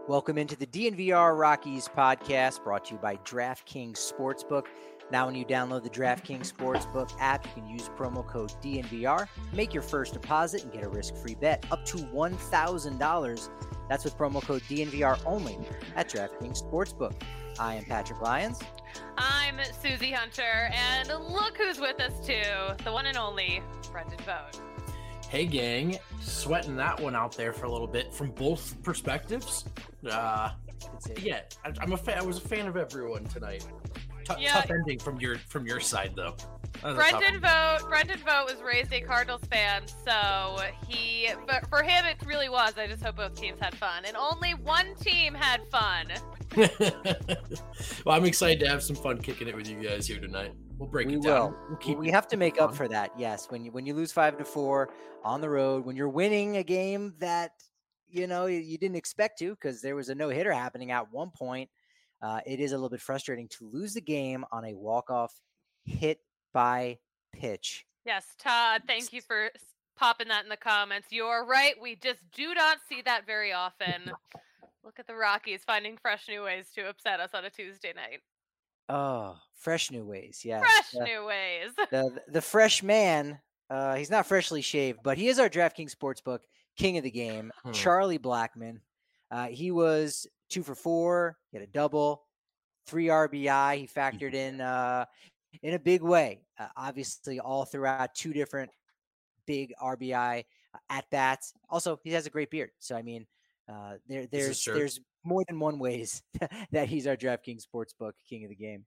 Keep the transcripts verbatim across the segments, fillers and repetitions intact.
Welcome into the D N V R Rockies podcast, brought to you by DraftKings Sportsbook. Now, when you download the DraftKings Sportsbook app, you can use promo code D N V R, make your first deposit, and get a risk-free bet up to one thousand dollars. That's with promo code D N V R only at DraftKings Sportsbook. I am Patrick Lyons. I'm Susie Hunter, and look who's with us too, the one and only Brendan Vogt. Hey gang, sweating that one out there for a little bit from both perspectives. Uh, yeah, I, I'm a fan. I was a fan of everyone tonight. T- yeah. Tough ending from your from your side though. Brendan Vogt. Brendan Vogt was raised a Cardinals fan, so he. But for him, it really was. I just hope both teams had fun, and only one team had fun. Well, I'm excited to have some fun kicking it with you guys here tonight. We'll break we it down. Will. We'll keep we have to make up for that. Yes, when you when you lose five to four on the road, when you're winning a game that you know you, you didn't expect to, because there was a no hitter happening at one point. Uh, it is a little bit frustrating to lose the game on a walk off hit by pitch. Yes, Todd. Thank you for popping that in the comments. You're right. We just do not see that very often. Look at the Rockies finding fresh new ways to upset us on a Tuesday night. Oh, fresh new ways. Yeah. Fresh the, new ways. the the fresh man, uh, he's not freshly shaved, but he is our DraftKings Sportsbook king of the game, hmm. Charlie Blackmon. Uh, he was two for four, he had a double, three R B I. He factored in uh, in a big way, uh, obviously all throughout two different big R B I at bats. Also, he has a great beard. So, I mean, uh, there there's there's more than one ways that he's our DraftKings Sportsbook king of the game.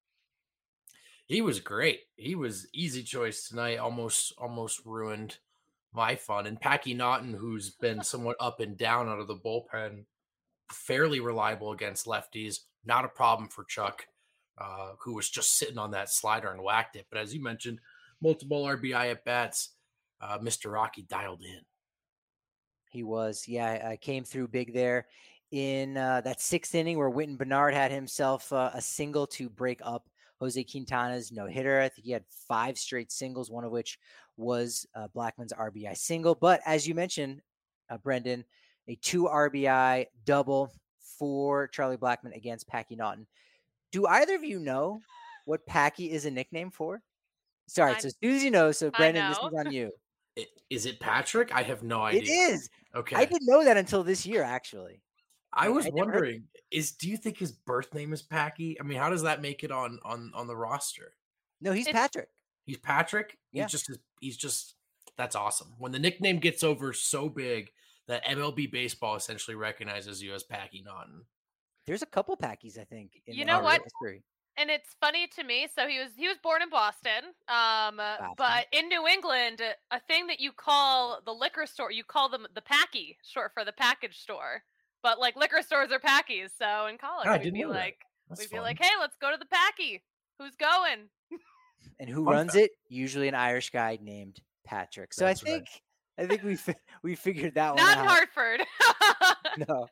He was great. He was easy choice tonight. Almost almost ruined my fun. And Packy Naughton, who's been somewhat up and down out of the bullpen, fairly reliable against lefties. Not a problem for Chuck, uh, who was just sitting on that slider and whacked it. But as you mentioned, multiple R B I at bats. Uh, Mister Rocky dialed in. He was, yeah, I came through big there in uh, that sixth inning where Whitton Bernard had himself uh, a single to break up Jose Quintana's no-hitter. I think he had five straight singles, one of which was uh, Blackmon's R B I single. But as you mentioned, uh, Brendan, a two R B I double for Charlie Blackmon against Packy Naughton. Do either of you know what Packy is a nickname for? Sorry, I, so Susie knows, so Brendan, this is on you. It, is it Patrick? I have no idea. It is. Okay. I didn't know that until this year, actually. I was I wondering, is do you think his birth name is Packy? I mean, how does that make it on on on the roster? No, he's it's, Patrick. He's Patrick? Yeah. He's just he's just that's awesome. When the nickname gets over so big that M L B baseball essentially recognizes you as Packy Naughton. There's a couple Packies, I think. In you know what? History. And it's funny to me. So he was he was born in Boston, um, but in New England, a thing that you call the liquor store, you call them the Packy, short for the package store. But like liquor stores are Packies. So in college, oh, we'd be like, we'd fun. be like, hey, let's go to the Packy. Who's going? And who fun runs fact. it? Usually an Irish guy named Patrick. So That's I think right. I think we fi- we figured that Not one out. Hartford. No.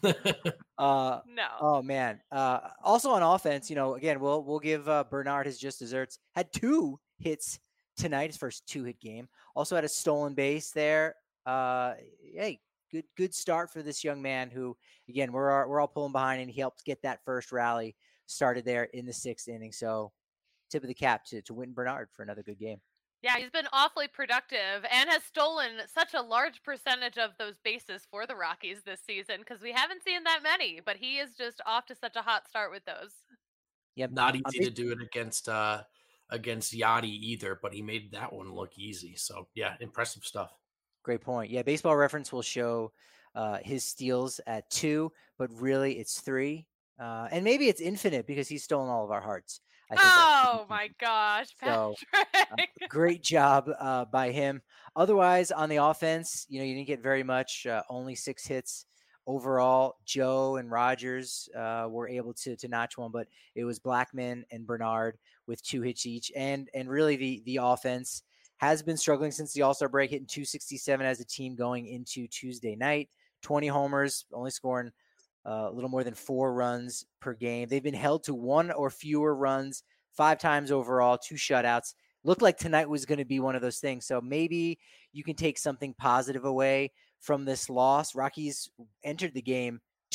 uh, no. Oh man. Uh, also on offense, you know, again, we'll we'll give uh, Bernard his just desserts. Had two hits tonight, his first two hit game. Also had a stolen base there. Uh, hey, good good start for this young man who, again, we're all, we're all pulling behind, and he helped get that first rally started there in the sixth inning. So, tip of the cap to to Whitton Bernard for another good game. Yeah, he's been awfully productive and has stolen such a large percentage of those bases for the Rockies this season because we haven't seen that many, but he is just off to such a hot start with those. Yep. Not easy to do it against uh, against Yachty either, but he made that one look easy. So, yeah, impressive stuff. Great point. Yeah, Baseball Reference will show uh, his steals at two, but really it's three. Uh, and maybe it's infinite because he's stolen all of our hearts. I think oh my gosh, Patrick. So, uh, great job uh, by him. Otherwise, on the offense, you know, you didn't get very much, uh, only six hits overall. Joe and Rogers uh, were able to to notch one, but it was Blackmon and Bernard with two hits each. And and really the the offense has been struggling since the All-Star break, hitting two sixty-seven as a team going into Tuesday night. twenty homers, only scoring Uh, a little more than four runs per game. They've been held to one or fewer runs five times overall, two shutouts. Looked like tonight was going to be one of those things. So maybe you can take something positive away from this loss. Rockies entered the game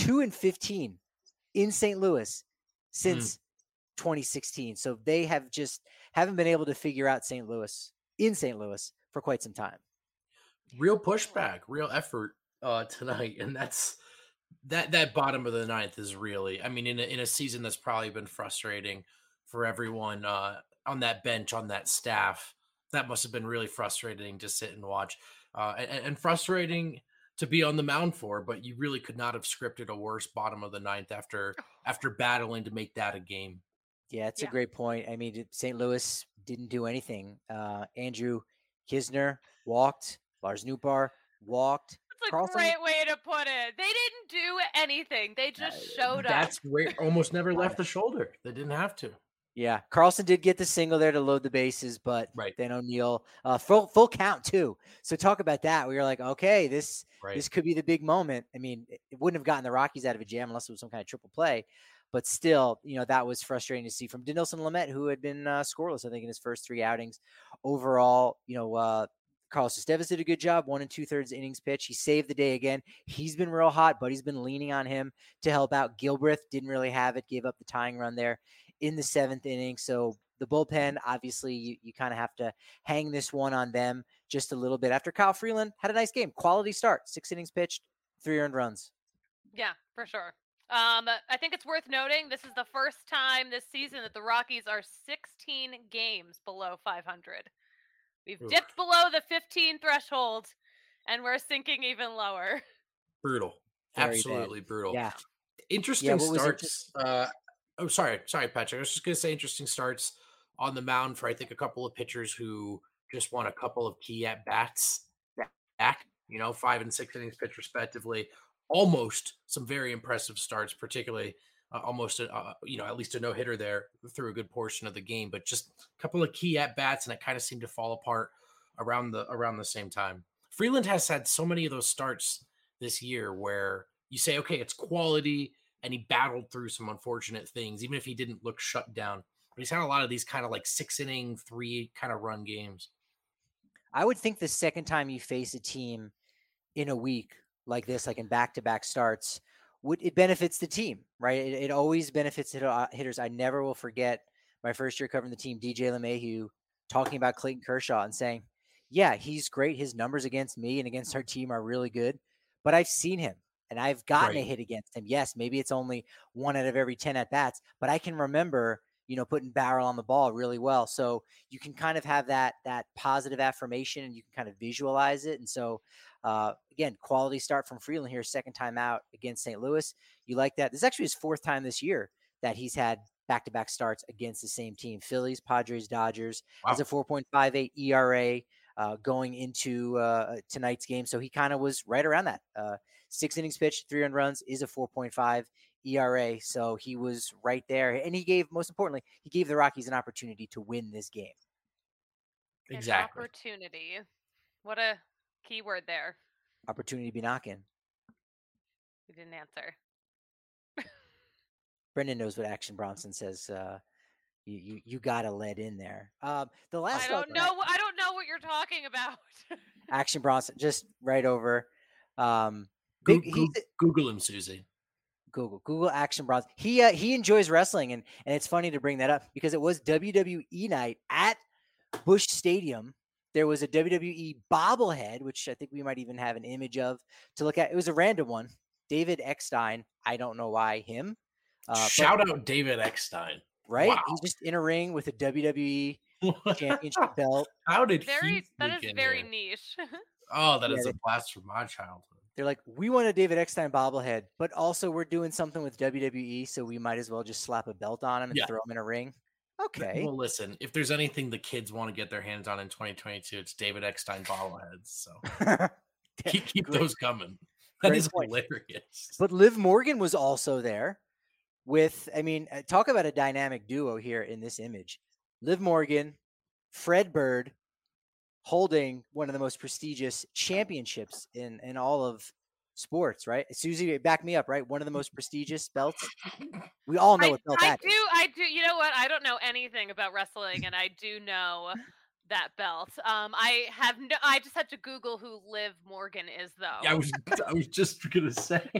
two and fifteen in Saint Louis since Mm. twenty sixteen. So they have just haven't been able to figure out Saint Louis in Saint Louis for quite some time. Real pushback, real effort uh, tonight, and that's that. That bottom of the ninth is really, I mean, in a, in a season that's probably been frustrating for everyone uh, on that bench, on that staff. That must have been really frustrating to sit and watch, uh, and, and frustrating to be on the mound for. But you really could not have scripted a worse bottom of the ninth after after battling to make that a game. Yeah, it's Yeah. a great point. I mean, Saint Louis didn't do anything. Uh, Andrew Kisner walked. Lars Nootbaar walked. That's a Carlson, great way to put it. They didn't do anything. They just showed up. That's where almost never left the shoulder. They didn't have to. Yeah, Carlson did get the single there to load the bases, but Right. then O'Neill uh, full full count too. So talk about that. We were like, okay, this Right. this could be the big moment. I mean, it, it wouldn't have gotten the Rockies out of a jam unless it was some kind of triple play, but still, you know, that was frustrating to see from Dinelson Lamet, who had been uh, scoreless, I think, in his first three outings. Overall, you know, uh, Carlos Estevez did a good job, one and two thirds innings pitch. He saved the day again. He's been real hot, but he's been leaning on him to help out. Gilbreth didn't really have it, gave up the tying run there in the seventh inning. So the bullpen, obviously, you, you kind of have to hang this one on them just a little bit. After Kyle Freeland had a nice game, quality start, six innings pitched, three earned runs. Yeah, for sure. Um, I think it's worth noting this is the first time this season that the Rockies are sixteen games below five hundred. We've Oof. dipped below the fifteen threshold, and we're sinking even lower. Brutal. Very Absolutely bad. brutal. Yeah. Interesting Yeah, what was starts. Uh, oh, sorry. Sorry, Patrick. I was just going to say interesting starts on the mound for, I think, a couple of pitchers who just won a couple of key at-bats back, you know, five and six innings pitched respectively. Almost some very impressive starts, particularly uh, almost, a, uh, you know, at least a no-hitter there through a good portion of the game, but just a couple of key at-bats, and it kind of seemed to fall apart around the around the same time. Freeland has had so many of those starts this year where you say, okay, it's quality, and he battled through some unfortunate things, even if he didn't look shut down. But he's had a lot of these kind of like six-inning, three kind of run games. I would think the second time you face a team in a week like this, like in back-to-back starts, would it benefits the team, right? It, it always benefits hit, uh, hitters. I never will forget my first year covering the team, D J LeMahieu talking about Clayton Kershaw and saying, yeah, he's great. His numbers against me and against our team are really good, but I've seen him and I've gotten Right. a hit against him. Yes, maybe it's only one out of every ten at bats, but I can remember, you know, putting barrel on the ball really well. So you can kind of have that, that positive affirmation and you can kind of visualize it. And so, uh, again, quality start from Freeland here, second time out against Saint Louis. You like that? This is actually his fourth time this year that he's had back-to-back starts against the same team. Phillies, Padres, Dodgers. Wow. Has a four point five eight E R A uh, going into uh, tonight's game. So he kind of was right around that. Uh, six innings pitched, three earned runs is a four point five E R A. So he was right there. And he gave, most importantly, he gave the Rockies an opportunity to win this game. An Exactly. opportunity. What a key word there. Opportunity to be knocking. You didn't answer. Brendan knows what Action Bronson says. Uh, you you you got to let in there. Um, the last I don't know. I don't know what you're talking about. Action Bronson, just right over. Um, Go- big, go- he's, Google him, Susie. Google Google Action Bronson. He uh, he enjoys wrestling, and and it's funny to bring that up because it was W W E night at Busch Stadium. There was a W W E bobblehead, which I think we might even have an image of to look at. It was a random one. David Eckstein. I don't know why him. Uh, Shout but, out David Eckstein. Right? Wow. He's just in a ring with a W W E championship belt. How did very, he that is very here? niche. Oh, that yeah, is they, a blast from my childhood. They're like, we want a David Eckstein bobblehead, but also we're doing something with W W E, so we might as well just slap a belt on him and yeah. throw him in a ring. Okay. Well, listen, if there's anything the kids want to get their hands on in twenty twenty-two, it's David Eckstein bobbleheads. So keep, keep those coming. That Great is point. Hilarious. But Liv Morgan was also there with, I mean, talk about a dynamic duo here in this image. Liv Morgan, Fred Bird, holding one of the most prestigious championships in, in all of sports, right? Susie, back me up, right? One of the most prestigious belts. We all know I, what belt I that do, is. I do. You know what? I don't know anything about wrestling, and I do know that belt. Um, I have no. I just had to Google who Liv Morgan is, though. Yeah, I was. I was just gonna say.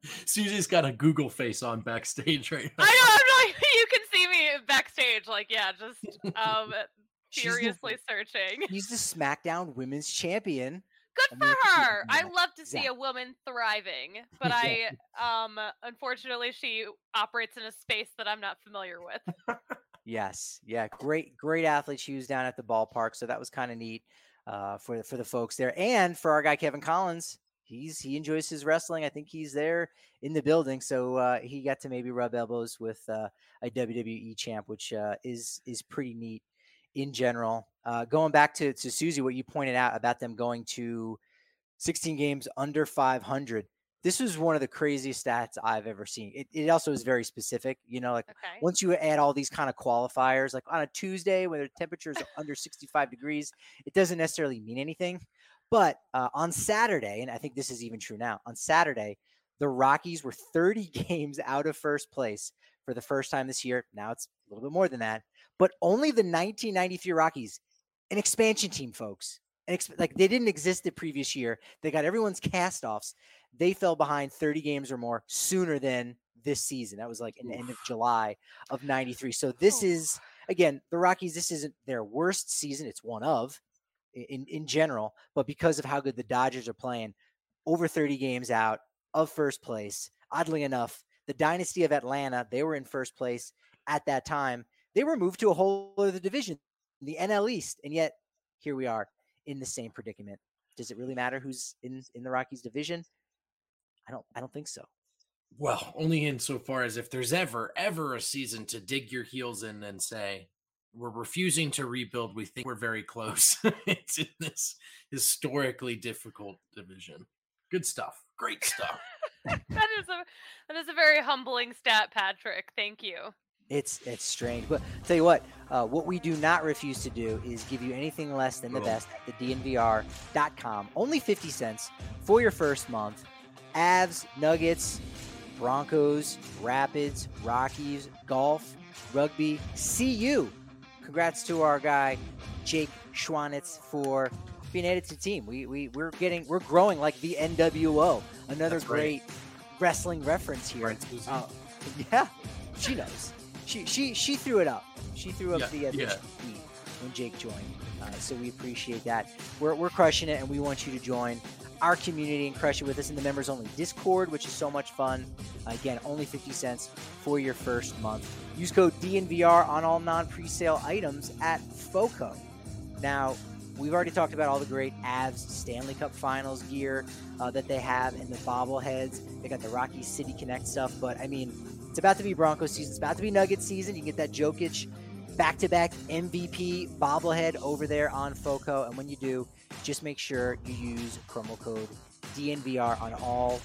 Susie's got a Google face on backstage right now. I know. I'm like, you can see me backstage, like, yeah, just um, furiously the, searching. She's the SmackDown Women's Champion. Good for her. I love to see a woman thriving, but I, um, unfortunately, she operates in a space that I'm not familiar with. Yes, yeah, great, great athlete. She was down at the ballpark, so that was kind of neat uh, for for the folks there, and for our guy Kevin Collins. He's he enjoys his wrestling. I think he's there in the building, so uh, he got to maybe rub elbows with uh, a W W E champ, which uh, is is pretty neat in general. Uh, going back to to Susie, what you pointed out about them going to sixteen games under five hundred. This was one of the craziest stats I've ever seen. It, it also is very specific. You know, like okay. once you add all these kind of qualifiers, like on a Tuesday when the temperature is under sixty-five degrees, it doesn't necessarily mean anything. But uh, on Saturday, and I think this is even true now, on Saturday, the Rockies were thirty games out of first place for the first time this year. Now it's a little bit more than that. But only the nineteen ninety-three Rockies, an expansion team, folks. Like they didn't exist the previous year. They got everyone's cast-offs. They fell behind thirty games or more sooner than this season. That was like in the end of July of ninety-three. So this is, again, the Rockies, this isn't their worst season. It's one of in, in general, but because of how good the Dodgers are playing, over thirty games out of first place. Oddly enough, the dynasty of Atlanta, they were in first place at that time. They were moved to a whole other division, the N L East, and yet here we are in the same predicament. Does it really matter who's in, in the Rockies division? I don't I don't think so. Well, only insofar as if there's ever, ever a season to dig your heels in and say, we're refusing to rebuild. We think we're very close. It's in this historically difficult division. Good stuff. Great stuff. that is a that is a very humbling stat, Patrick. Thank you. It's it's strange, but I'll tell you what, uh, what we do not refuse to do is give you anything less than the best at the D N V R dot com. Only fifty cents for your first month. Avs, Nuggets, Broncos, Rapids, Rockies, golf, rugby, C U. Congrats to our guy Jake Schwanitz for being added to the team. We we we're getting we're growing like the N W O. Another That's great right. wrestling reference here. Right, uh, yeah, she knows. She she she threw it up. She threw up yeah, the, uh, the yeah. tweet when Jake joined. Uh, so we appreciate that. We're we're crushing it, and we want you to join our community and crush it with us in the members only Discord, which is so much fun. Uh, again, only fifty cents for your first month. Use code D N V R on all non-presale items at FOCO. Now, we've already talked about all the great Avs Stanley Cup Finals gear uh, that they have and the bobbleheads. They got the Rocky City Connect stuff, but I mean, it's about to be Broncos season. It's about to be Nuggets season. You can get that Jokic back-to-back M V P bobblehead over there on FOCO, and when you do, just make sure you use promo code D N V R on all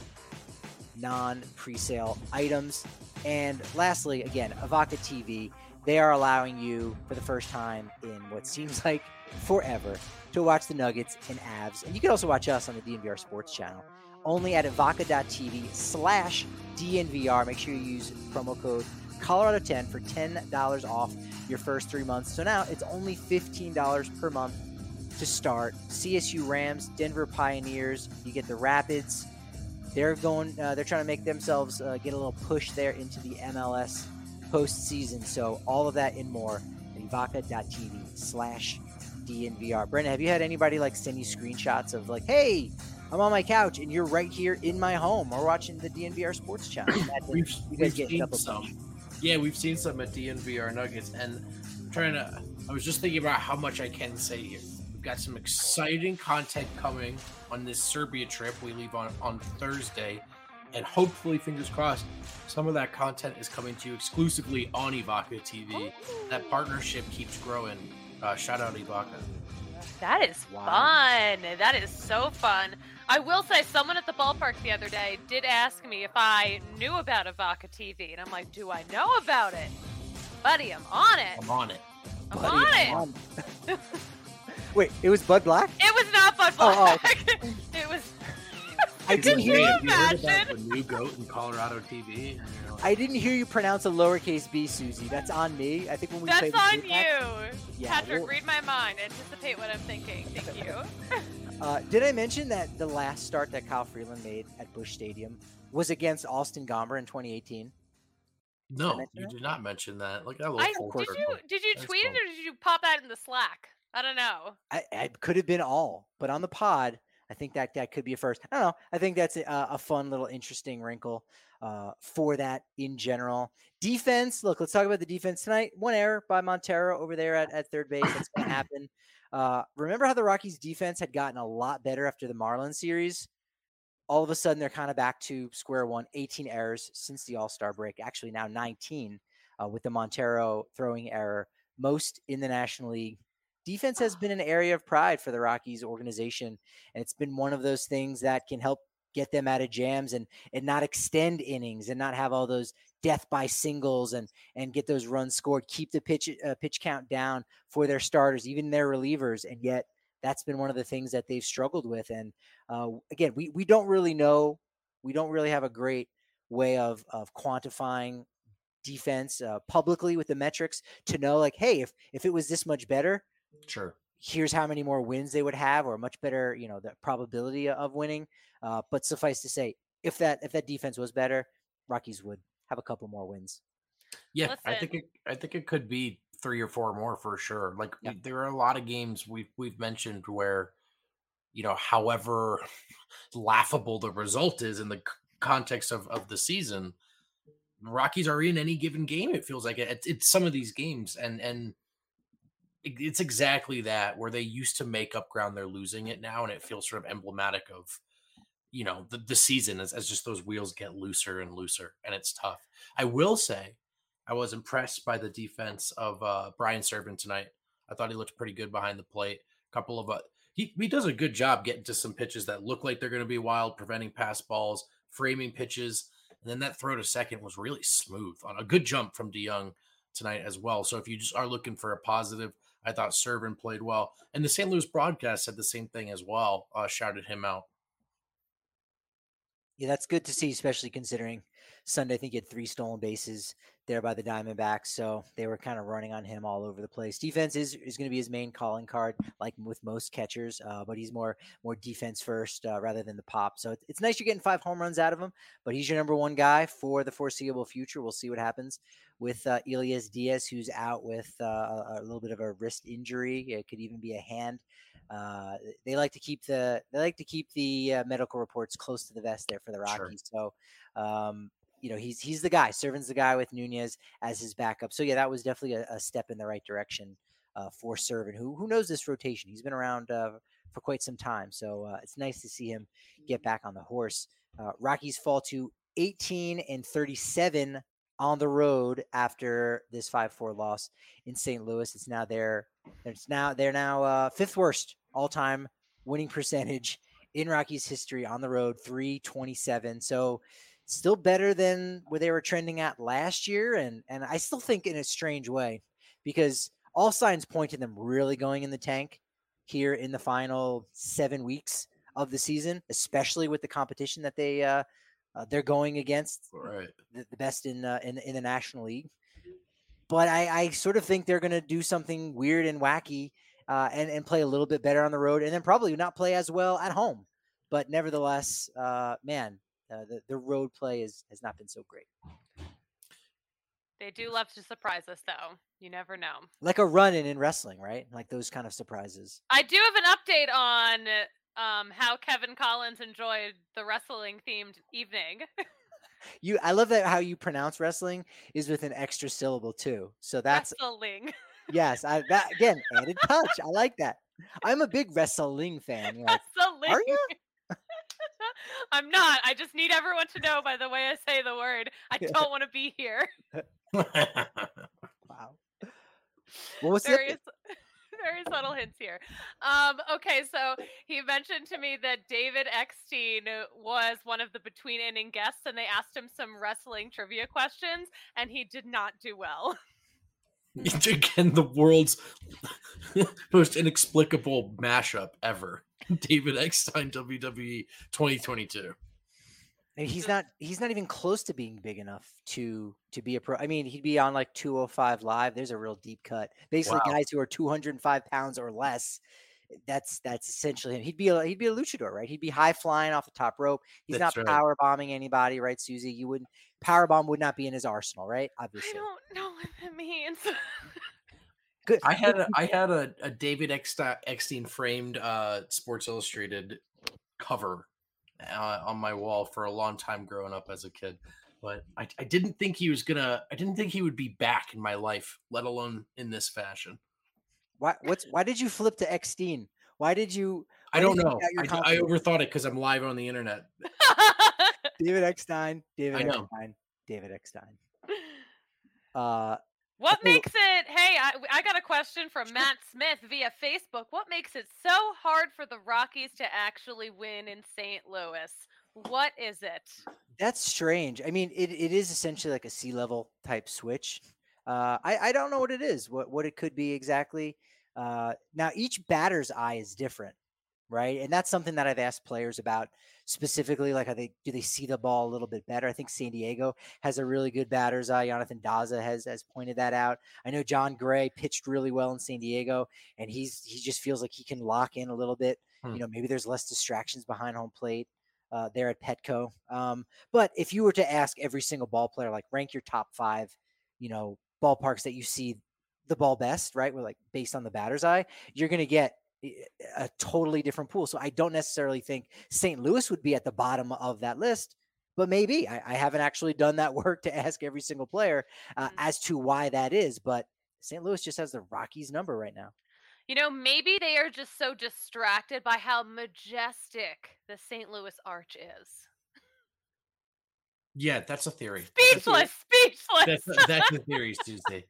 non-presale items. And lastly, again, Avaca T V, they are allowing you for the first time in what seems like forever to watch the Nuggets and Avs. And you can also watch us on the D N V R Sports channel, only at avaca.tv slash DNVR. Make sure you use promo code Colorado ten for ten dollars off your first three months. So now it's only fifteen dollars per month to start. C S U Rams, Denver Pioneers, you get the Rapids. They're going, uh, they're trying to make themselves uh, get a little push there into the M L S postseason. So all of that and more at avaca.tv slash DNVR. Brendan, have you had anybody like send you screenshots of like, hey, I'm on my couch and you're right here in my home or watching the D N V R Sports channel? we've you guys we've get seen some. Yeah, we've seen some at D N V R Nuggets, and I'm trying to. I was just thinking about how much I can say here. We've got some exciting content coming on this Serbia trip. We leave on on Thursday, and hopefully, fingers crossed, some of that content is coming to you exclusively on Evoca T V. That partnership keeps growing. Uh, shout out Evoca. That is wow. fun. That is so fun. I will say, someone at the ballpark the other day did ask me if I knew about Evoca T V, and I'm like, do I know about it? Buddy, I'm on it. I'm on it. I'm Buddy, on I'm it. on. Wait, it was Bud Black? It was not Bud Black. Oh, oh. It was... I didn't hear you. Have you heard about the new goat in Colorado T V? Like, I didn't hear you pronounce a lowercase b, Susie. That's on me. I think when we That's played on the you. match, yeah, Patrick, we'll... read my mind. Anticipate what I'm thinking. Thank you. uh, did I mention that the last start that Kyle Freeland made at Busch Stadium was against Austin Gomber in twenty eighteen. No, you did not mention that. Like, I love I, did you did you tweet it or did you pop that in the Slack? I don't know. I, it could have been all, but on the pod, I think that that could be a first. I don't know. I think that's a, a fun little interesting wrinkle uh, for that in general. Defense. Look, let's talk about the defense tonight. One error by Montero over there at, at third base. That's going to happen. Uh, remember how the Rockies defense had gotten a lot better after the Marlins series? All of a sudden, they're kind of back to square one. eighteen errors since the All-Star break. Actually, now nineteen uh, with the Montero throwing error, most in the National League. Defense has been an area of pride for the Rockies organization, and it's been one of those things that can help get them out of jams and and not extend innings and not have all those death by singles and and get those runs scored. Keep the pitch uh, pitch count down for their starters, even their relievers, and yet that's been one of the things that they've struggled with. And uh, again, we we don't really know, we don't really have a great way of of quantifying defense uh, publicly with the metrics to know, like, hey, if if it was this much better. Sure. Here's how many more wins they would have, or much better, you know, the probability of winning. Uh, but suffice to say, if that if that defense was better, Rockies would have a couple more wins. Yeah, Listen. I think it. I think it could be three or four more for sure. Like yeah. we, there are a lot of games we've we've mentioned where, you know, however laughable the result is in the context of of the season, Rockies are in any given game. It feels like it. It's, it's some of these games, and and. It's exactly that, where they used to make up ground, they're losing it now, and it feels sort of emblematic of, you know, the, the season as, as just those wheels get looser and looser, and it's tough. I will say I was impressed by the defense of uh, Brian Serven tonight. I thought he looked pretty good behind the plate. A couple of uh, he, he does a good job getting to some pitches that look like they're going to be wild, preventing pass balls, framing pitches, and then that throw to second was really smooth on a good jump from DeYoung tonight as well. So if you just are looking for a positive, I thought Serven played well. And the Saint Louis broadcast said the same thing as well, uh, shouted him out. Yeah, that's good to see, especially considering Sunday, I think he had three stolen bases there by the Diamondbacks. So they were kind of running on him all over the place. Defense is, is going to be his main calling card, like with most catchers, uh, but he's more more defense first uh, rather than the pop. So it's, it's nice you're getting five home runs out of him, but he's your number one guy for the foreseeable future. We'll see what happens with uh, Elias Diaz, who's out with uh, a, a little bit of a wrist injury. It could even be a hand. Uh, they like to keep the they like to keep the uh, medical reports close to the vest there for the Rockies. Sure. So, um, you know, he's he's the guy. Serven's the guy with Nunez as his backup. So yeah, that was definitely a, a step in the right direction uh, for Serven, who who knows this rotation. He's been around uh, for quite some time. So uh, it's nice to see him get back on the horse. Uh, Rockies fall to eighteen and thirty-seven on the road after this five four loss in Saint Louis. It's now their it's now they're now uh, fifth worst all-time winning percentage in Rockies history on the road, three twenty-seven. So still better than where they were trending at last year, and and I still think in a strange way, because all signs point to them really going in the tank here in the final seven weeks of the season, especially with the competition that they uh, uh, they're going against, right. the, the best in, uh, in in the National League. But I, I sort of think they're going to do something weird and wacky uh, and and play a little bit better on the road, and then probably not play as well at home. But nevertheless, uh, man, uh, the the road play is has not been so great. They do love to surprise us, though. You never know. Like a run-in in wrestling, right? Like those kind of surprises. I do have an update on um, how Kevin Collins enjoyed the wrestling-themed evening. You, I love that how you pronounce wrestling is with an extra syllable too. So that's wrestling. Yes, I that again added touch. I like that. I'm a big wrestling fan. You're like, wrestling. Are you? I'm not. I just need everyone to know by the way I say the word. I don't want to be here. Wow. What was very, it? Very subtle hints here. Um, okay, so he mentioned to me that David Eckstein was one of the between inning guests, and they asked him some wrestling trivia questions, and he did not do well. Again, the world's most inexplicable mashup ever. David Eckstein, W W E twenty twenty-two. He's not. He's not even close to being big enough to to be a pro. I mean, he'd be on like two oh five Live. There's a real deep cut. Basically, wow. Guys who are two hundred five pounds or less. That's that's essentially him. He'd be a, he'd be a luchador, right? He'd be high flying off the top rope. He's That's not right. power bombing anybody, right, Susie? You wouldn't power bomb would not be in his arsenal, right? Obviously. I don't know what that means. Good. I had a, I had a, a David Eckstein framed uh, Sports Illustrated cover uh, on my wall for a long time growing up as a kid, but I, I didn't think he was gonna. I didn't think he would be back in my life, let alone in this fashion. Why? What's why did you flip to Eckstein? Why did you? Why I don't did you know. your I, I overthought it because I'm live on the internet. David Eckstein. David I know. Eckstein. David Eckstein. Uh, what okay. makes it? Hey, I, I got a question from sure. Matt Smith via Facebook. What makes it so hard for the Rockies to actually win in Saint Louis? What is it? That's strange. I mean, it, it is essentially like a sea level type switch. Uh, I, I don't know what it is, what, what it could be exactly. Uh, now, each batter's eye is different, right? And that's something that I've asked players about specifically, like, are they, do they see the ball a little bit better? I think San Diego has a really good batter's eye. Jonathan Daza has, has pointed that out. I know John Gray pitched really well in San Diego, and he's he just feels like he can lock in a little bit. Hmm. You know, maybe there's less distractions behind home plate. Uh, there at Petco. Um, but if you were to ask every single ball player, like rank your top five, you know, ballparks that you see the ball best, right? We're like based on the batter's eye, you're going to get a totally different pool. So I don't necessarily think Saint Louis would be at the bottom of that list, but maybe I, I haven't actually done that work to ask every single player uh, mm-hmm. as to why that is. But Saint Louis just has the Rockies number right now. You know, maybe they are just so distracted by how majestic the Saint Louis Arch is. Yeah, that's a theory. Speechless, speechless. That's, that's the theory, Tuesday.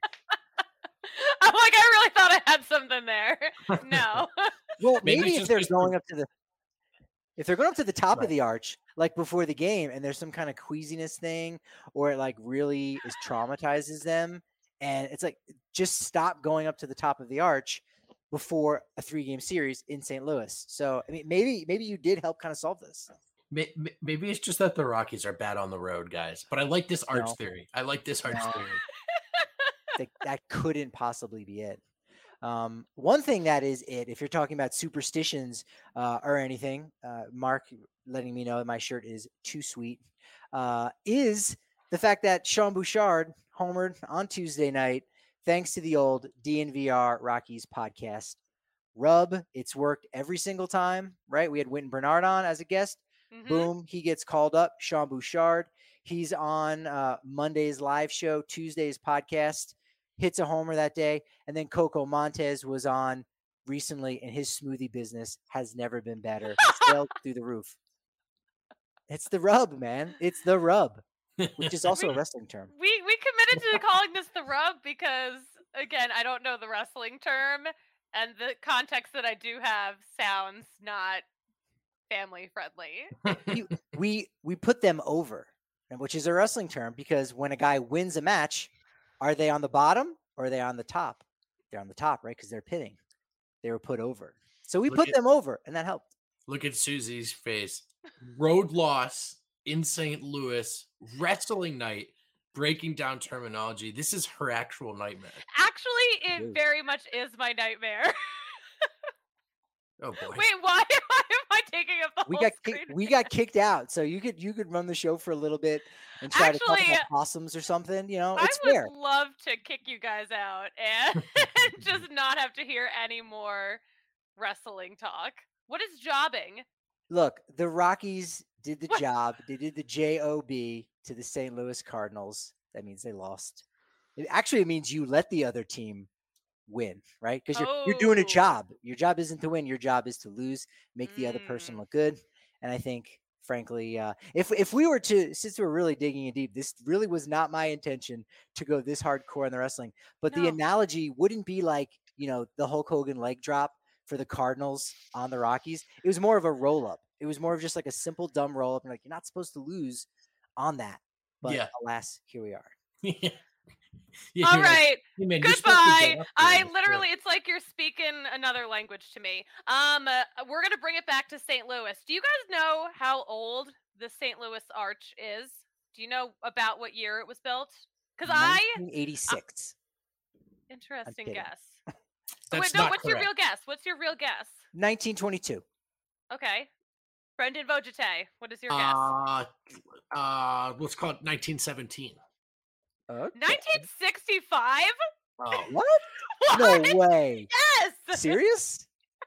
I'm like, I really thought I had something there. No. Well, maybe, maybe if they're going up to the if they're going up to the top right. of the arch, like before the game, and there's some kind of queasiness thing, or it like really is traumatizes them, and it's like just stop going up to the top of the arch before a three-game series in Saint Louis. So, I mean, maybe maybe you did help kind of solve this. Maybe it's just that the Rockies are bad on the road, guys. But I like this arch no. theory. I like this arch no. theory. that, that couldn't possibly be it. Um, one thing that is it, if you're talking about superstitions uh, or anything, uh, Mark letting me know that my shirt is too sweet, uh, is the fact that Sean Bouchard homered on Tuesday night thanks to the old D N V R Rockies podcast. Rub, it's worked every single time, right? We had Wynton Bernard on as a guest. Mm-hmm. Boom, he gets called up. Sean Bouchard, he's on uh, Monday's live show, Tuesday's podcast, hits a homer that day. And then Coco Montes was on recently, and his smoothie business has never been better. Sailed through the roof. It's the rub, man. It's the rub. Which is also we, a wrestling term. We we committed to calling this the rub because, again, I don't know the wrestling term, and the context that I do have sounds not family friendly. we, we we put them over, which is a wrestling term, because when a guy wins a match, are they on the bottom or are they on the top? They're on the top, right? Because they're pinning. They were put over. So we look put at, them over, and that helped. Look at Susie's face. Road loss in Saint Louis, wrestling night, breaking down terminology. This is her actual nightmare. Actually, it, it very much is my nightmare. Oh boy! Wait, why, why am I taking up the we whole got screen? Kick, we got kicked out, so you could you could run the show for a little bit and try Actually, to talk about possums or something. You know, it's I would fair. love to kick you guys out and just not have to hear any more wrestling talk. What is jobbing? Look, the Rockies did the what? job. They did the J O B to the Saint Louis Cardinals. That means they lost. It actually it means you let the other team win, right? Because you're oh. you're doing a job. Your job isn't to win. Your job is to lose, make mm. the other person look good. And I think, frankly, uh, if if we were to, since we're really digging in deep, this really was not my intention to go this hardcore in the wrestling. But no. the analogy wouldn't be like, you know, the Hulk Hogan leg drop for the Cardinals on the Rockies. It was more of a roll up. It was more of just like a simple dumb roll up. And like, you're not supposed to lose on that. But yeah. alas, here we are. yeah. Yeah, All right. Like, hey man, goodbye. I literally, it's like you're speaking another language to me. Um, uh, we're going to bring it back to Saint Louis. Do you guys know how old the Saint Louis Arch is? Do you know about what year it was built? Because I... nineteen eighty-six. Uh, interesting guess. That's Wait, no, not what's correct. your real guess? What's your real guess? nineteen twenty-two. Okay. Brendan Vojete, what is your guess? Uh, uh, let's call it nineteen seventeen. Okay. nineteen sixty-five? Oh, What? What? No way. Yes. Serious?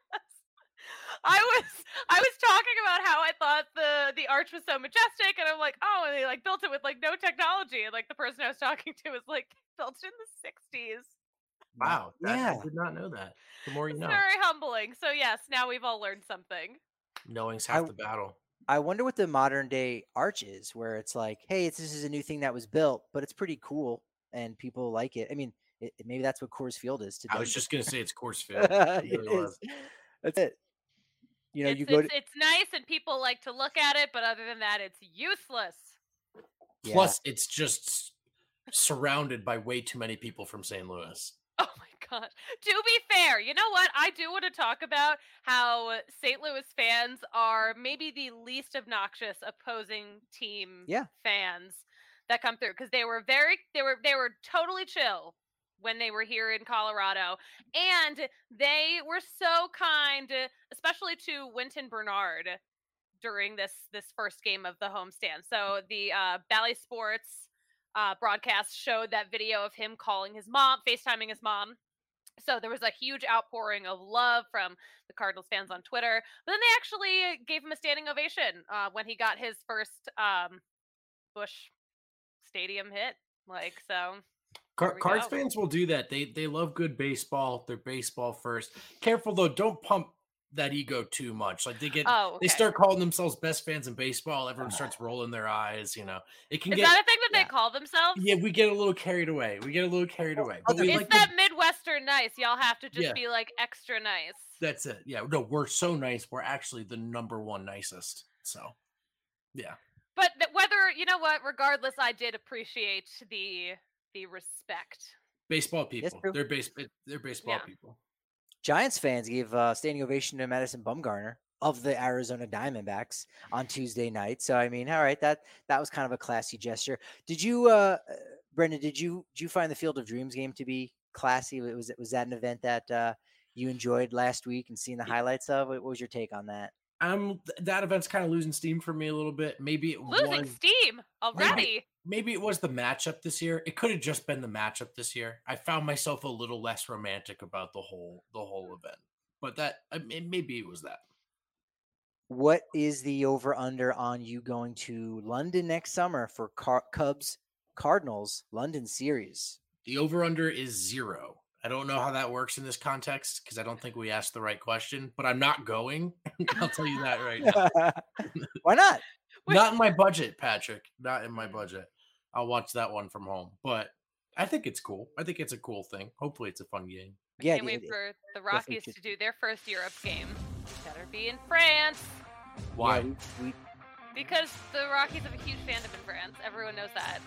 I was I was talking about how I thought the the arch was so majestic, and I'm like, oh, and they like built it with like no technology, and like the person I was talking to was like built in the sixties. wow. That, Yeah. I did not know that. The more you It's know. very humbling. So yes, now we've all learned something. Knowing's half I- the battle. I wonder what the modern day arch is, where it's like, hey, it's, this is a new thing that was built, but it's pretty cool and people like it. I mean, it, it- maybe that's what Coors Field is today. I was just gonna say it's Coors Field. It It really was. is. That's it. You know, it's, you go it's, to it's nice and people like to look at it, but other than that, it's useless. yeah. Plus, it's just surrounded by way too many people from Saint Louis. Oh my god. To be fair, you know what? I do want to talk about how Saint Louis fans are maybe the least obnoxious opposing team Yeah. fans that come through, because they were very they were they were totally chill when they were here in Colorado, and they were so kind, especially to Wynton Bernard during this this first game of the homestand. So the uh, Bally Sports uh, broadcast showed that video of him calling his mom, FaceTiming his mom. So there was a huge outpouring of love from the Cardinals fans on Twitter. But then they actually gave him a standing ovation uh, when he got his first um, Busch Stadium hit. Like, so. Car- There we Cards go. fans will do that. They they love good baseball. They're baseball first. Careful though, don't pump that ego too much. Like they get Oh, okay. they start calling themselves best fans in baseball. Everyone starts rolling their eyes. You know, it can Is get. that a thing that yeah. they call themselves? Yeah, we get a little carried away. We get a little carried away. But we It's like that to- Midwestern nice. Y'all have to just Yeah. be like extra nice. that's it. Yeah, no, we're so nice. We're actually the number one nicest. So, yeah. But th- whether, you know what, regardless, I did appreciate the the respect. Baseball people. true. They're base. They're baseball Yeah. people. Giants fans gave uh, standing ovation to Madison Bumgarner of the Arizona Diamondbacks on Tuesday night. So I mean, all right, that that was kind of a classy gesture. Did you, uh, uh, Brendan? Did you did you find the Field of Dreams game to be classy? Was it was that an event that uh, you enjoyed last week and seeing the highlights of? What was your take on that? Um, th- that event's kind of losing steam for me a little bit. Maybe it Losing was. steam already. Maybe it was the matchup this year. It could have just been the matchup this year. I found myself a little less romantic about the whole the whole event, but that I mean, maybe it was that. What is the over under on you going to London next summer for Car- Cubs Cardinals London series? The over under is zero. I don't know how that works in this context because I don't think we asked the right question. But I'm not going. I'll tell you that right now. Why not? Not in my budget, Patrick. Not in my budget. I'll watch that one from home. But I think it's cool. I think it's a cool thing. Hopefully, it's a fun game. Yeah, Can't wait it- for the definitely Rockies should to be. do their first Europe game. Better be in France. Why? yeah, we, we, Because the Rockies have a huge fandom in France. Everyone knows that.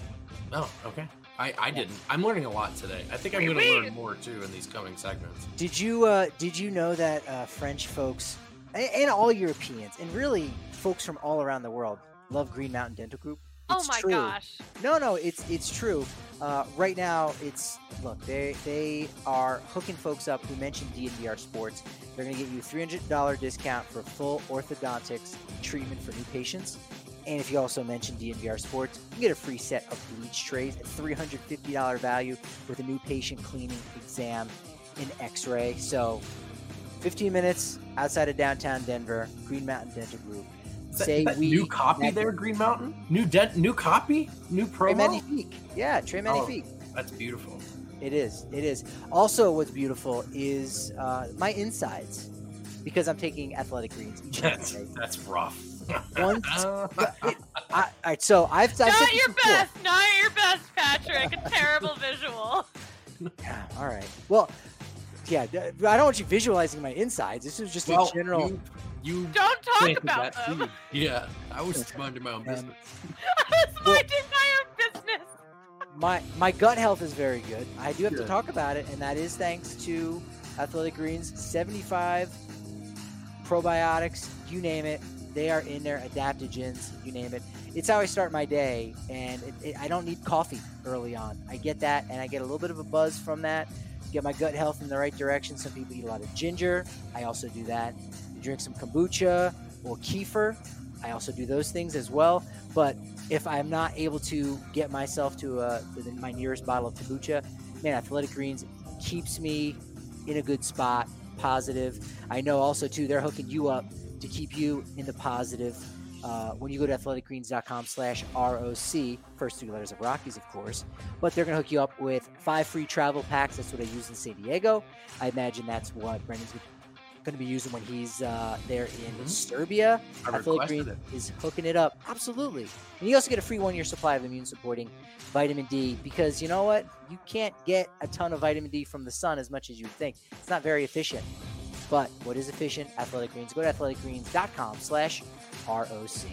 Oh, okay. I, I didn't. I'm learning a lot today. I think I'm Oui, going to oui. learn more too in these coming segments. Did you uh, did you know that uh, French folks and, and all Europeans and really folks from all around the world love Green Mountain Dental Group? Oh It's my true. gosh. No, no, it's it's true. Uh, right now, it's look they they are hooking folks up who mentioned D N V R Sports. They're going to get you a three hundred dollars discount for full orthodontics treatment for new patients. And if you also mention D N V R Sports, you get a free set of bleach trays at three hundred fifty dollars value with a new patient cleaning, exam, and x-ray. So fifteen minutes outside of downtown Denver, Green Mountain Dental Group. Is that- Say is that we new copy met- there, Green Mountain? New dent, new copy, new Trey promo. Magnifique. Yeah, Trey Magnifique. That's beautiful. It is. It is. Also, what's beautiful is uh, my insides because I'm taking athletic greens each and That's every day. that's rough. Once, it, I, all right, so I've, I've said Not this your before. best. Not your best, Patrick. A terrible visual. Yeah, all right. Well, yeah, d- I don't want you visualizing my insides. This is just well, a general. You, you Don't talk planted about that them. seed. Yeah, I was minding my own Um, business. I was minding my own business. My my gut health is very good. I do have to Good. talk about it, and that is thanks to Athletic Greens. seventy-five probiotics, you name it. They are in there. Adaptogens, you name it. it's how I start my day, and it, it, I don't need coffee early on. I get that, and I get a little bit of a buzz from that. Get my gut health in the right direction. Some people eat a lot of ginger. I also do that. You drink some kombucha or kefir. I also do those things as well. But if I'm not able to get myself to, uh, to my nearest bottle of kombucha, man, Athletic Greens keeps me in a good spot, positive. I know also, too, they're hooking you up to keep you in the positive. Uh, when you go to athleticgreens.com slash ROC, first two letters of Rockies, of course, but they're going to hook you up with five free travel packs. That's what I use in San Diego. I imagine that's what Brendan's going to be using when he's uh, there in mm-hmm. Serbia. I Athletic Greens it. is hooking it up. Absolutely. And you also get a free one-year supply of immune-supporting vitamin D because you know what? You can't get a ton of vitamin D from the sun as much as you would think. It's not very efficient. But what is efficient? Athletic Greens. Go to athleticgreens.com slash R O C.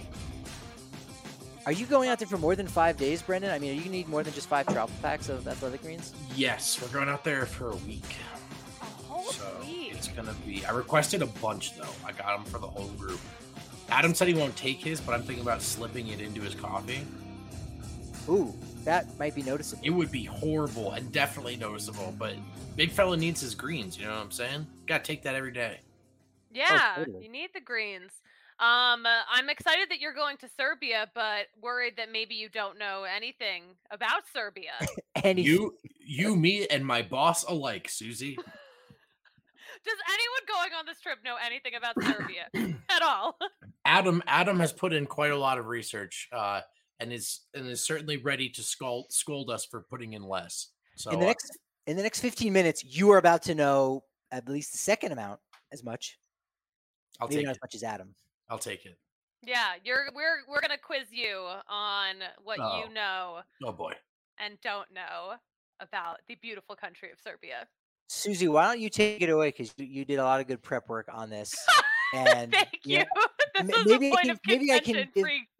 Are you going out there for more than five days, Brendan? I mean, are you going to need more than just five travel packs of Athletic Greens? Yes, we're going out there for a week. A whole so week? It's going to be... I requested a bunch, though. I got them for the whole group. Adam said he won't take his, but I'm thinking about slipping it into his coffee. Ooh, that might be noticeable. It would be horrible and definitely noticeable, but big fella needs his greens, you know what I'm saying? Got to take that every day. Yeah, oh, totally. You need the greens. Um, uh, I'm excited that you're going to Serbia, but worried that maybe you don't know anything about Serbia. Anything. You, you, me, and my boss alike, Susie. Does anyone going on this trip know anything about Serbia at all? Adam, Adam has put in quite a lot of research, uh, and is and is certainly ready to scold scold us for putting in less. So in the next in the next fifteen minutes, you are about to know at least the second amount as much. I'll Maybe take not it. as much as Adam. I'll take it. Yeah, you're we're we're gonna quiz you on what Oh. you know Oh boy. and don't know about the beautiful country of Serbia. Susie, why don't you take it away because you, you did a lot of good prep work on this. And Thank you. know, this m- is maybe a I point can- of maybe I can contention. give- free-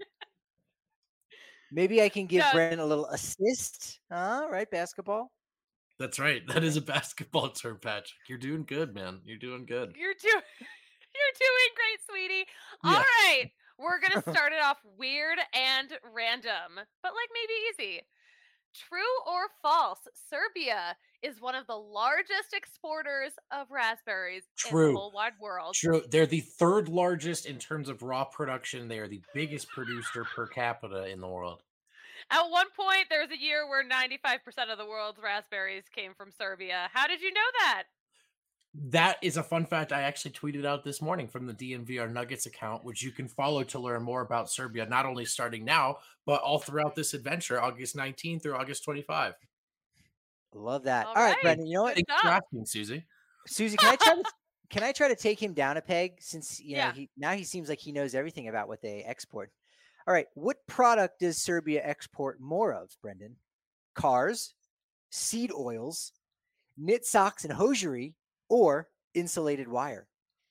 maybe I can give Yeah. Brendan a little assist. All right, basketball. That's right. That is a basketball term, Patrick. You're doing good, man. You're doing good. You're doing you're doing great, sweetie. All Yeah. right. We're gonna start it off weird and random, but like maybe easy. True or false? Serbia is one of the largest exporters of raspberries in True. the whole wide world. True. They're the third largest in terms of raw production. They are the biggest producer per capita in the world. At one point, there was a year where ninety-five percent of the world's raspberries came from Serbia. How did you know that? That is a fun fact I actually tweeted out this morning from the D N V R Nuggets account, which you can follow to learn more about Serbia, not only starting now, but all throughout this adventure, August nineteenth through August twenty-fifth. Love that. All All right, right. Brendan. You know what, Good Thanks for job. asking, Susie. Susie? Can I try to can I try to take him down a peg since you know Yeah. he now he seems like he knows everything about what they export. All right, what product does Serbia export more of, Brendan? Cars, seed oils, knit socks and hosiery, or insulated wire?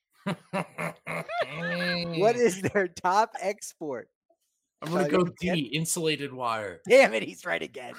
What is their top export? I'm gonna Uh, go yeah. D, insulated wire. Damn it, he's right again.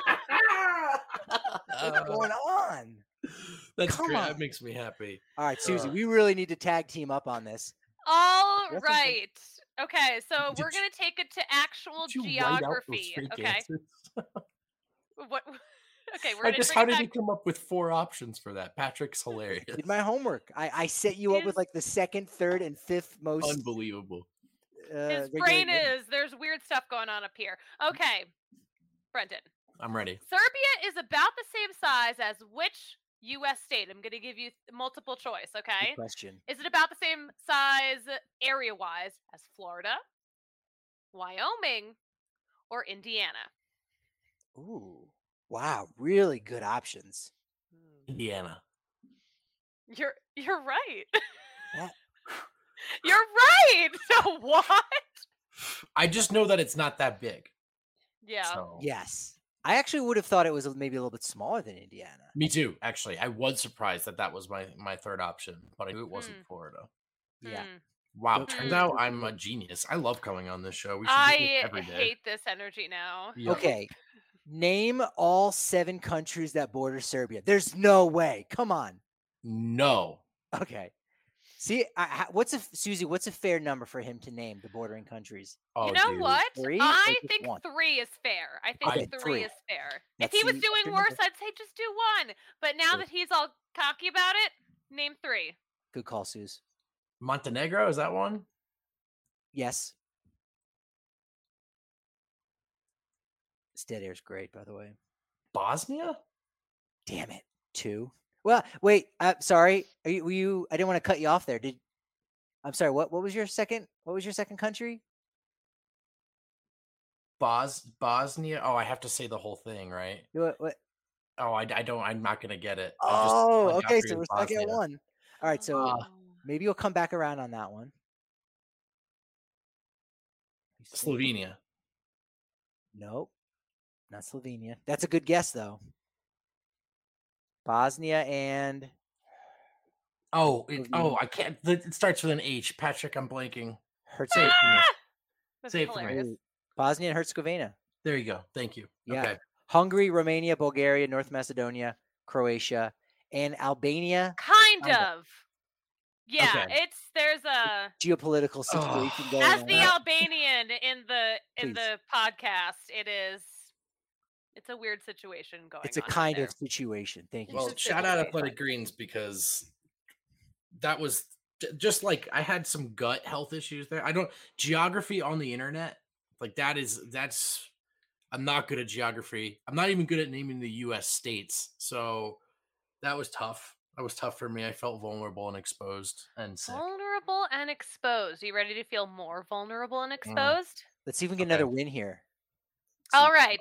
Uh, What's going on? That's Come great. on. That makes me happy. All right, Susie, Uh, we really need to tag team up on this. All That's right. Okay, so Did we're you- gonna take it to actual Did you write out those geography. fake Okay. answers? What? Okay, we're I gonna just, bring how it did back. you come up with four options for that? Patrick's hilarious. Did my homework. I, I set you up with His- like the second, third, and fifth most. Unbelievable. Uh, His regular brain written. is there's weird stuff going on up here. Okay, Brendan. I'm ready. Serbia is about the same size as which U S state? I'm gonna give you multiple choice. Good Okay. question. Is it about the same size area-wise as Florida, Wyoming, or Indiana? Ooh, wow, really good options. Indiana. You're you're right. That- You're right. So what? I just know that it's not that big. Yeah. So. Yes, I actually would have thought it was maybe a little bit smaller than Indiana. Me too, actually. I was surprised that that was my, my third option, but I knew it wasn't Hmm. Florida. Yeah. Hmm. Wow, Good turns for out you. I'm a genius. I love coming on this show. We should do this I every day. hate this energy now. Yeah. Okay, name all seven countries that border Serbia. There's no way. Come on. No. Okay, See, I, what's a Susie? What's a fair number for him to name the bordering countries? Oh, you know dude. what? Three I or just think one? three is fair. I think Okay, three, three. is fair. Let's if he was see. doing worse, I'd say just do one. But now Good. that he's all cocky about it, name three. Good call, Suze. Montenegro, is that one? Yes. This dead air's great, by the way. Bosnia? Damn it. Two. Well, wait. Uh, sorry. Are you, were you? I didn't want to cut you off there. Did I'm sorry. What? What was your second? What was your second country? Bos Bosnia. Oh, I have to say the whole thing, right? What? what? Oh, I, I don't. I'm not gonna get it. Oh, I just, okay. So we're stuck at one. All right. So Oh. maybe you'll come back around on that one. Slovenia. Nope. Not Slovenia. That's a good guess, though. Bosnia and Oh, it, oh, I can't. It starts with an H. Patrick, I'm blanking. Herzegovina. Ah! That's Say it for me. hilarious. Bosnia and Herzegovina. There you go. Thank you. Yeah. Okay. Hungary, Romania, Bulgaria, North Macedonia, Croatia, and Albania. Kind, Kind of. Yeah, Okay. it's there's a Geopolitical situation Oh. going as on. the Albanian in the in Please. the podcast, it is it's a weird situation going on. It's a in kind there. of situation. Thank you. Well, It's a shout out situation. Athletic Greens because that was j- just like I had some gut health issues there. I don't geography on the internet like that is that's I'm not good at geography. I'm not even good at naming the U S states. So that was tough. That was tough for me. I felt vulnerable and exposed and sick. Vulnerable and exposed. You ready to feel more vulnerable Mm. and exposed? Let's see if we can get Okay. another win here. All right.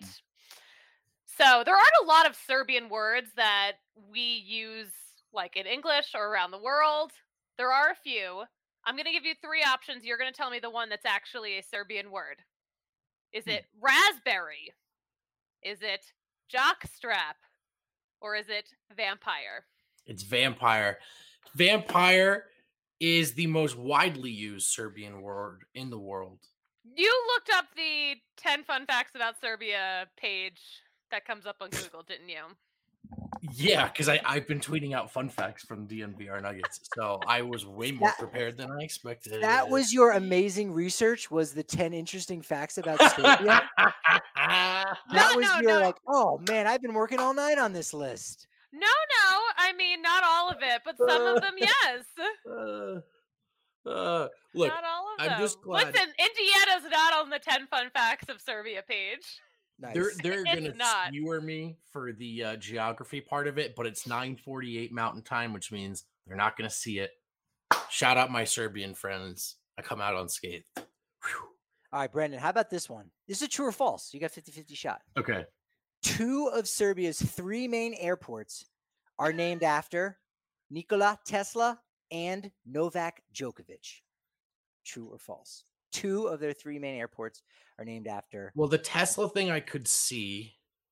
So there aren't a lot of Serbian words that we use like in English or around the world. There are a few. I'm going to give you three options. You're going to tell me the one that's actually a Serbian word. Is Hmm. it raspberry? Is it jockstrap? Or is it vampire? It's vampire. Vampire is the most widely used Serbian word in the world. You looked up the ten fun facts about Serbia page that comes up on Google, didn't you? Yeah, because I've been tweeting out fun facts from D N V R Nuggets. So I was way more That- prepared than I expected. That was your amazing research. Was the ten interesting facts about Serbia? That No, was no, your no. like, oh man, I've been working all night on this list. No, no. I mean, not all of it, but some of them, yes. Uh, uh, look, not all of I'm them. just glad- Listen, Indiana's not on the ten fun facts of Serbia page. Nice. they're they're It's gonna not. skewer me for the uh, geography part of it, but it's nine forty-eight Mountain Time, which means they're not gonna see it. Shout out my Serbian friends. I come out unscathed. Whew. All right, Brendan, how about this one? This is a true or false. You got fifty-fifty shot. Okay. Two of Serbia's three main airports are named after Nikola Tesla and Novak Djokovic. True or false? Two of their three main airports are named after. Well, the Tesla thing I could see.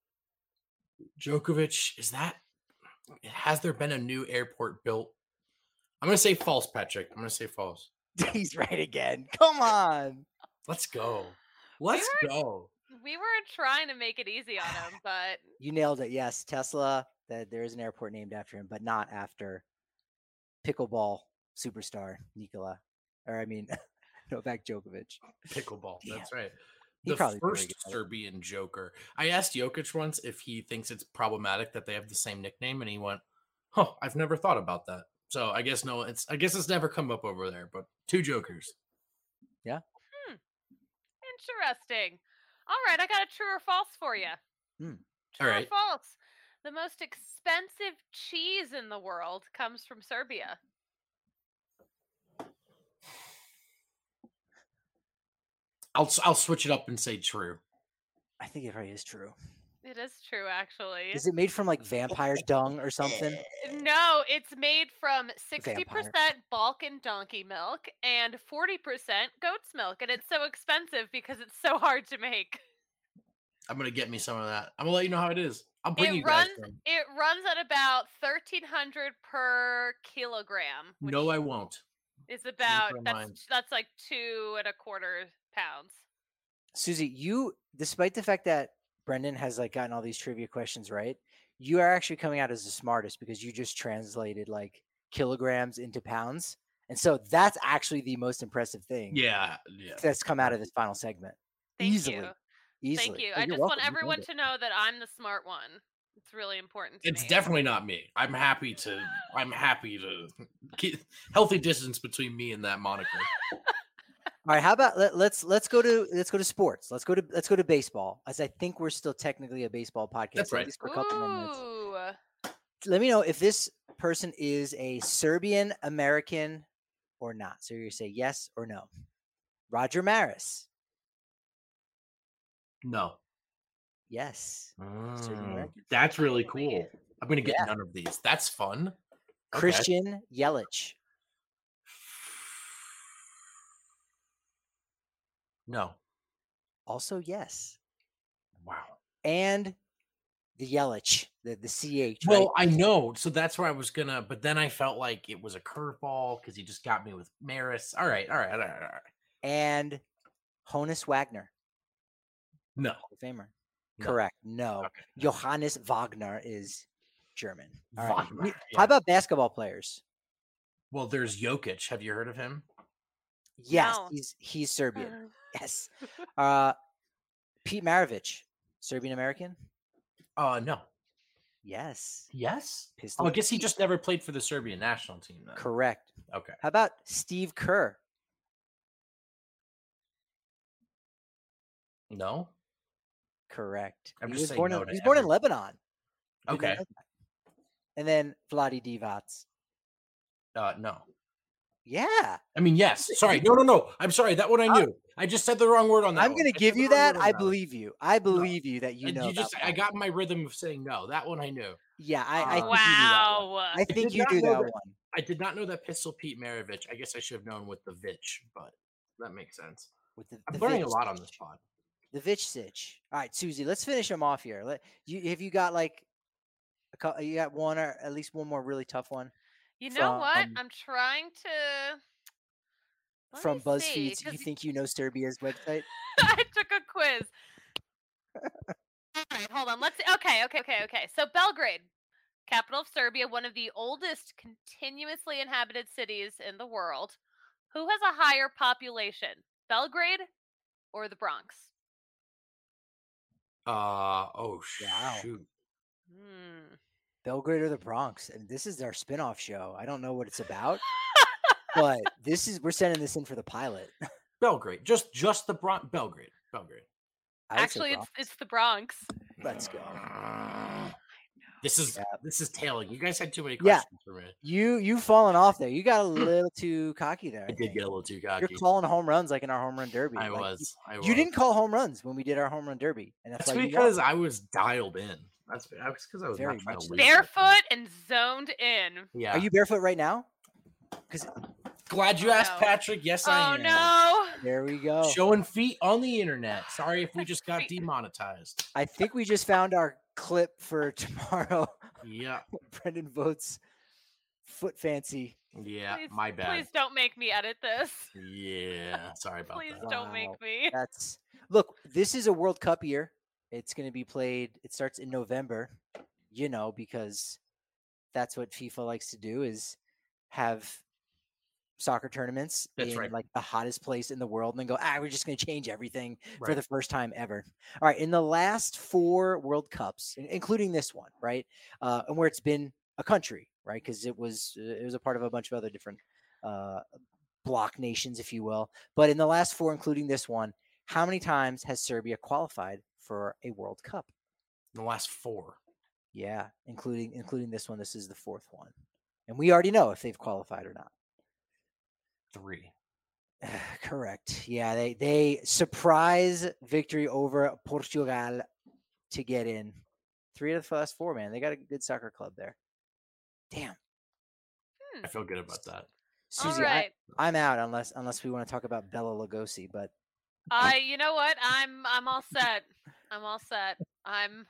Djokovic, is that has there been a new airport built? I'm gonna say false, Patrick. I'm gonna say false. He's right again. Come on. Let's go. Let's were- go. We were trying to make it easy on him, but You nailed it. Yes, Tesla. That there is an airport named after him, but not after pickleball superstar Nikola, or I mean Novak Djokovic. Pickleball. That's right. He The probably very first good at it. Serbian joker. I asked Jokic once if he thinks it's problematic that they have the same nickname, and he went, "Huh, I've never thought about that." So I guess no, it's I guess it's never come up over there. But two jokers. interesting. All right, I got a true or false for you. Hmm. True All right. or false? The most expensive cheese in the world comes from Serbia. I'll I'll switch it up and say true. I think it probably is true. It is true, actually. Is it made from like vampire dung or something? No, it's made from sixty percent Balkan donkey milk and forty percent goat's milk. And it's so expensive because it's so hard to make. I'm gonna get me some of that. I'm gonna let you know how it is. I'll bring It you guys runs some. it runs at about thirteen hundred per kilogram. Which No, I won't. is about never that's mind. that's like two and a quarter pounds. Susie, you, despite the fact that Brendan has like gotten all these trivia questions right, you are actually coming out as the smartest because you just translated like kilograms into pounds, And so that's actually the most impressive thing. Yeah, yeah. That's come out of this final segment. Thank Easily. you. Easily. Thank you. Oh, I you're just welcome. want You everyone nailed it. to know that I'm the smart one. It's really important to It's me. definitely not me. I'm happy to. I'm happy to keep healthy distance between me and that moniker. All right, how about let, let's let's go to let's go to sports. Let's go to let's go to baseball, as I think we're still technically a baseball podcast. That's so right. At least for a couple more minutes. Ooh. Let me know if this person is a Serbian American or not. So you say yes or no. Roger Maris. No. Yes. Serbian Mm, American. that's really Finally. cool. I'm gonna get Yeah. none of these. That's fun. Okay. Christian Yelich. No. Also yes. Wow. And the Yelich, the the C H. Well, right? I know. So that's where I was gonna, but then I felt like it was a curveball because he just got me with Maris. All right, all right, all right, all right. And Honus Wagner, No. Hall of Famer. No. Correct. No. Okay. Johannes Wagner is German. All right. Wagner, You- yeah. How about basketball players? Well, there's Jokic. Have you heard of him? Yes, No. he's he's Serbian. Yes. Uh, Pete Maravich, Serbian American. Uh, no. Yes. Yes. Pistol Oh, I guess he Pete. just never played for the Serbian national team. Then. Correct. Okay. How about Steve Kerr? No. Correct. I'm he just was saying born no in to he was born in every- Lebanon. Did not Okay. know that. And then Vladi Divac. Uh, no. Yeah. I mean, yes. Sorry. No, no, no. I'm sorry. That one I knew. I just said the wrong word on that. I'm one. going to I give said the you wrong that. word on I one. believe you. I believe you that you And know. you just, about I Vladi. got my rhythm of saying no. That one I knew. Yeah, I, I Uh, think you knew that one. Wow. I think did you not do know that that. one. I did not know that Pistol Pete Maravich. I guess I should have known with the Vitch, but that makes sense. With the, I'm the learning a Vitch lot on Sitch. this pod. The Vitch Sitch. All right, Susie, let's finish them off here. Let you have you got like a couple, you got one or at least one more really tough one You know what? from I'm trying to. Let from me see, BuzzFeed's You 'cause Think You Know Serbia's website? I took a quiz. All right, hold on. Let's see. Okay, okay, okay, okay. So Belgrade, capital of Serbia, one of the oldest continuously inhabited cities in the world. Who has a higher population, Belgrade or the Bronx? Uh oh Wow. shoot. Hmm. Belgrade or the Bronx? And this is our spin-off show. I don't know what it's about, but this is we're sending this in for the pilot. Belgrade. Just just the Bron- Belgrade. Belgrade. I would say Actually, it's Bronx. it's the Bronx. Let's go. This is Yeah. this is tailing. You guys had too many Yeah. questions for me. You you fallen off there. You got a little too cocky there. I did think. get a little too You're cocky. calling home runs like in our home run derby. I Like, was. I was. You didn't call home runs when we did our home run derby, and that's, That's why you because won. I was dialed in. That's that's because I was Very not trying much to so. lose. Barefoot and zoned in. Yeah. Are you barefoot right now? Because Glad you Oh, asked, no. Patrick. Yes, Oh I am. no! there we go. Showing feet on the internet. Sorry if we just got Feet. demonetized. I think we just found our clip for tomorrow. Yeah. Brendan votes foot fancy. Yeah. Please, my bad. Please don't make me edit this. Yeah. Sorry about Please that. don't make Wow. me. That's look. This is a World Cup year. It's going to be played. It starts in November. You know, because that's what FIFA likes to do is have soccer tournaments That's in right. like the hottest place in the world and then go, ah, we're just going to change everything for Right. the first time ever. All right. In the last four World Cups, in- including this one, right. Uh, and where it's been a country, right. Cause it was, uh, it was a part of a bunch of other different uh, block nations, if you will. But in the last four, including this one, how many times has Serbia qualified for a World Cup? In the last four. Yeah. Including, including this one. This is the fourth one. And we already know if they've qualified or not. Three. Correct. Yeah, they they surprise victory over Portugal to get in. Three of the last four, man. They got a good soccer club there. Damn. I feel good about that. Susie, All right. I, I'm out unless unless we want to talk about Bella Lugosi, but I. You know what? I'm. I'm all set. I'm all set. I'm.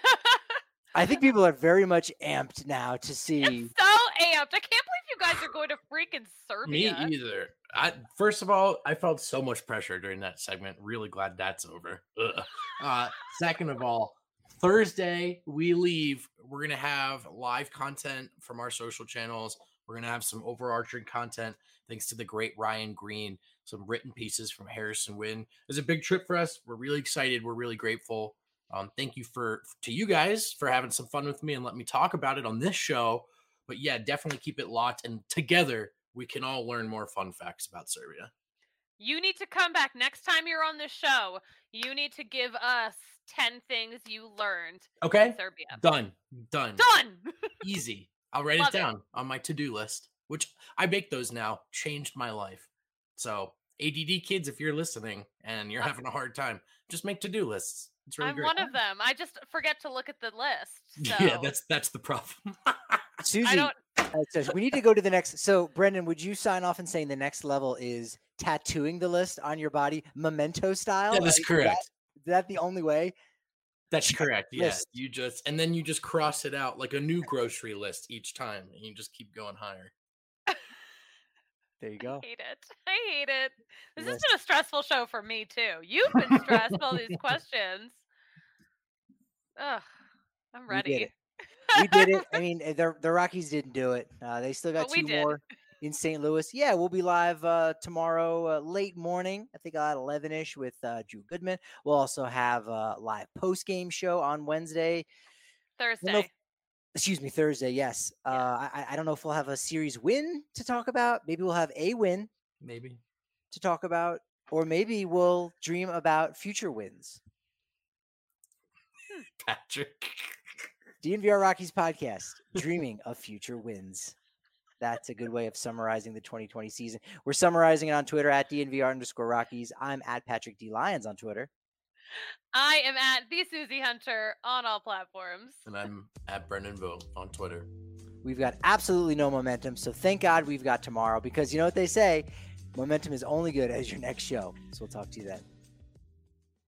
I think people are very much amped now to see. I'm so amped. I can't believe you guys are going to freaking Me Serbia. either. I first of all, I felt so much pressure during that segment. Really glad that's over. Ugh. Uh, second of all, Thursday we leave. We're gonna have live content from our social channels. We're going to have some overarching content thanks to the great Ryan Green, some written pieces from Harrison Wind. It was a big trip for us. We're really excited. We're really grateful. Um, thank you for to you guys for having some fun with me and let me talk about it on this show. But yeah, definitely keep it locked. And together, we can all learn more fun facts about Serbia. You need to come back next time you're on the show. You need to give us ten things you learned okay. in Serbia. Done. Done. Done. Easy. I'll write Love it down it. on my to-do list, which I make those now. Changed my life. So A D D kids, if you're listening and you're having a hard time, just make to-do lists. It's really I'm great. one of them. I just forget to look at the list. So. Yeah, that's that's the problem. Susie, I don't... uh, says we need to go to the next. So, Brendan, would you sign off and saying the next level is tattooing the list on your body, memento style? That is Like, correct. Is that, is that the only way? That's correct. Yes, List. you just and then you just cross it out like a new grocery list each time, and you just keep going higher. There you go. I hate it. I hate it. This List. has been a stressful show for me too. You've been stressed with all these questions. Ugh, I'm ready. We did it. We did it. I mean, the the Rockies didn't do it. Uh, they still got But we two did. more in Saint Louis. Yeah, we'll be live uh, tomorrow, uh, late morning. I think at eleven ish with uh, Drew Goodman. We'll also have a live post game show on Wednesday. Thursday. If, excuse me, Thursday. Yes. Yeah. Uh, I, I don't know if we'll have a series win to talk about. Maybe we'll have a win Maybe to talk about, or maybe we'll dream about future wins. Patrick. D N V R Rockies podcast, dreaming of future wins. That's a good way of summarizing the twenty twenty season. We're summarizing it on Twitter at D N V R underscore Rockies. I'm at Patrick D. Lyons on Twitter. I am at the Susie Hunter on all platforms. And I'm at Brendan Bowe on Twitter. We've got absolutely no momentum, so thank God we've got tomorrow because you know what they say, momentum is only good as your next show. So we'll talk to you then.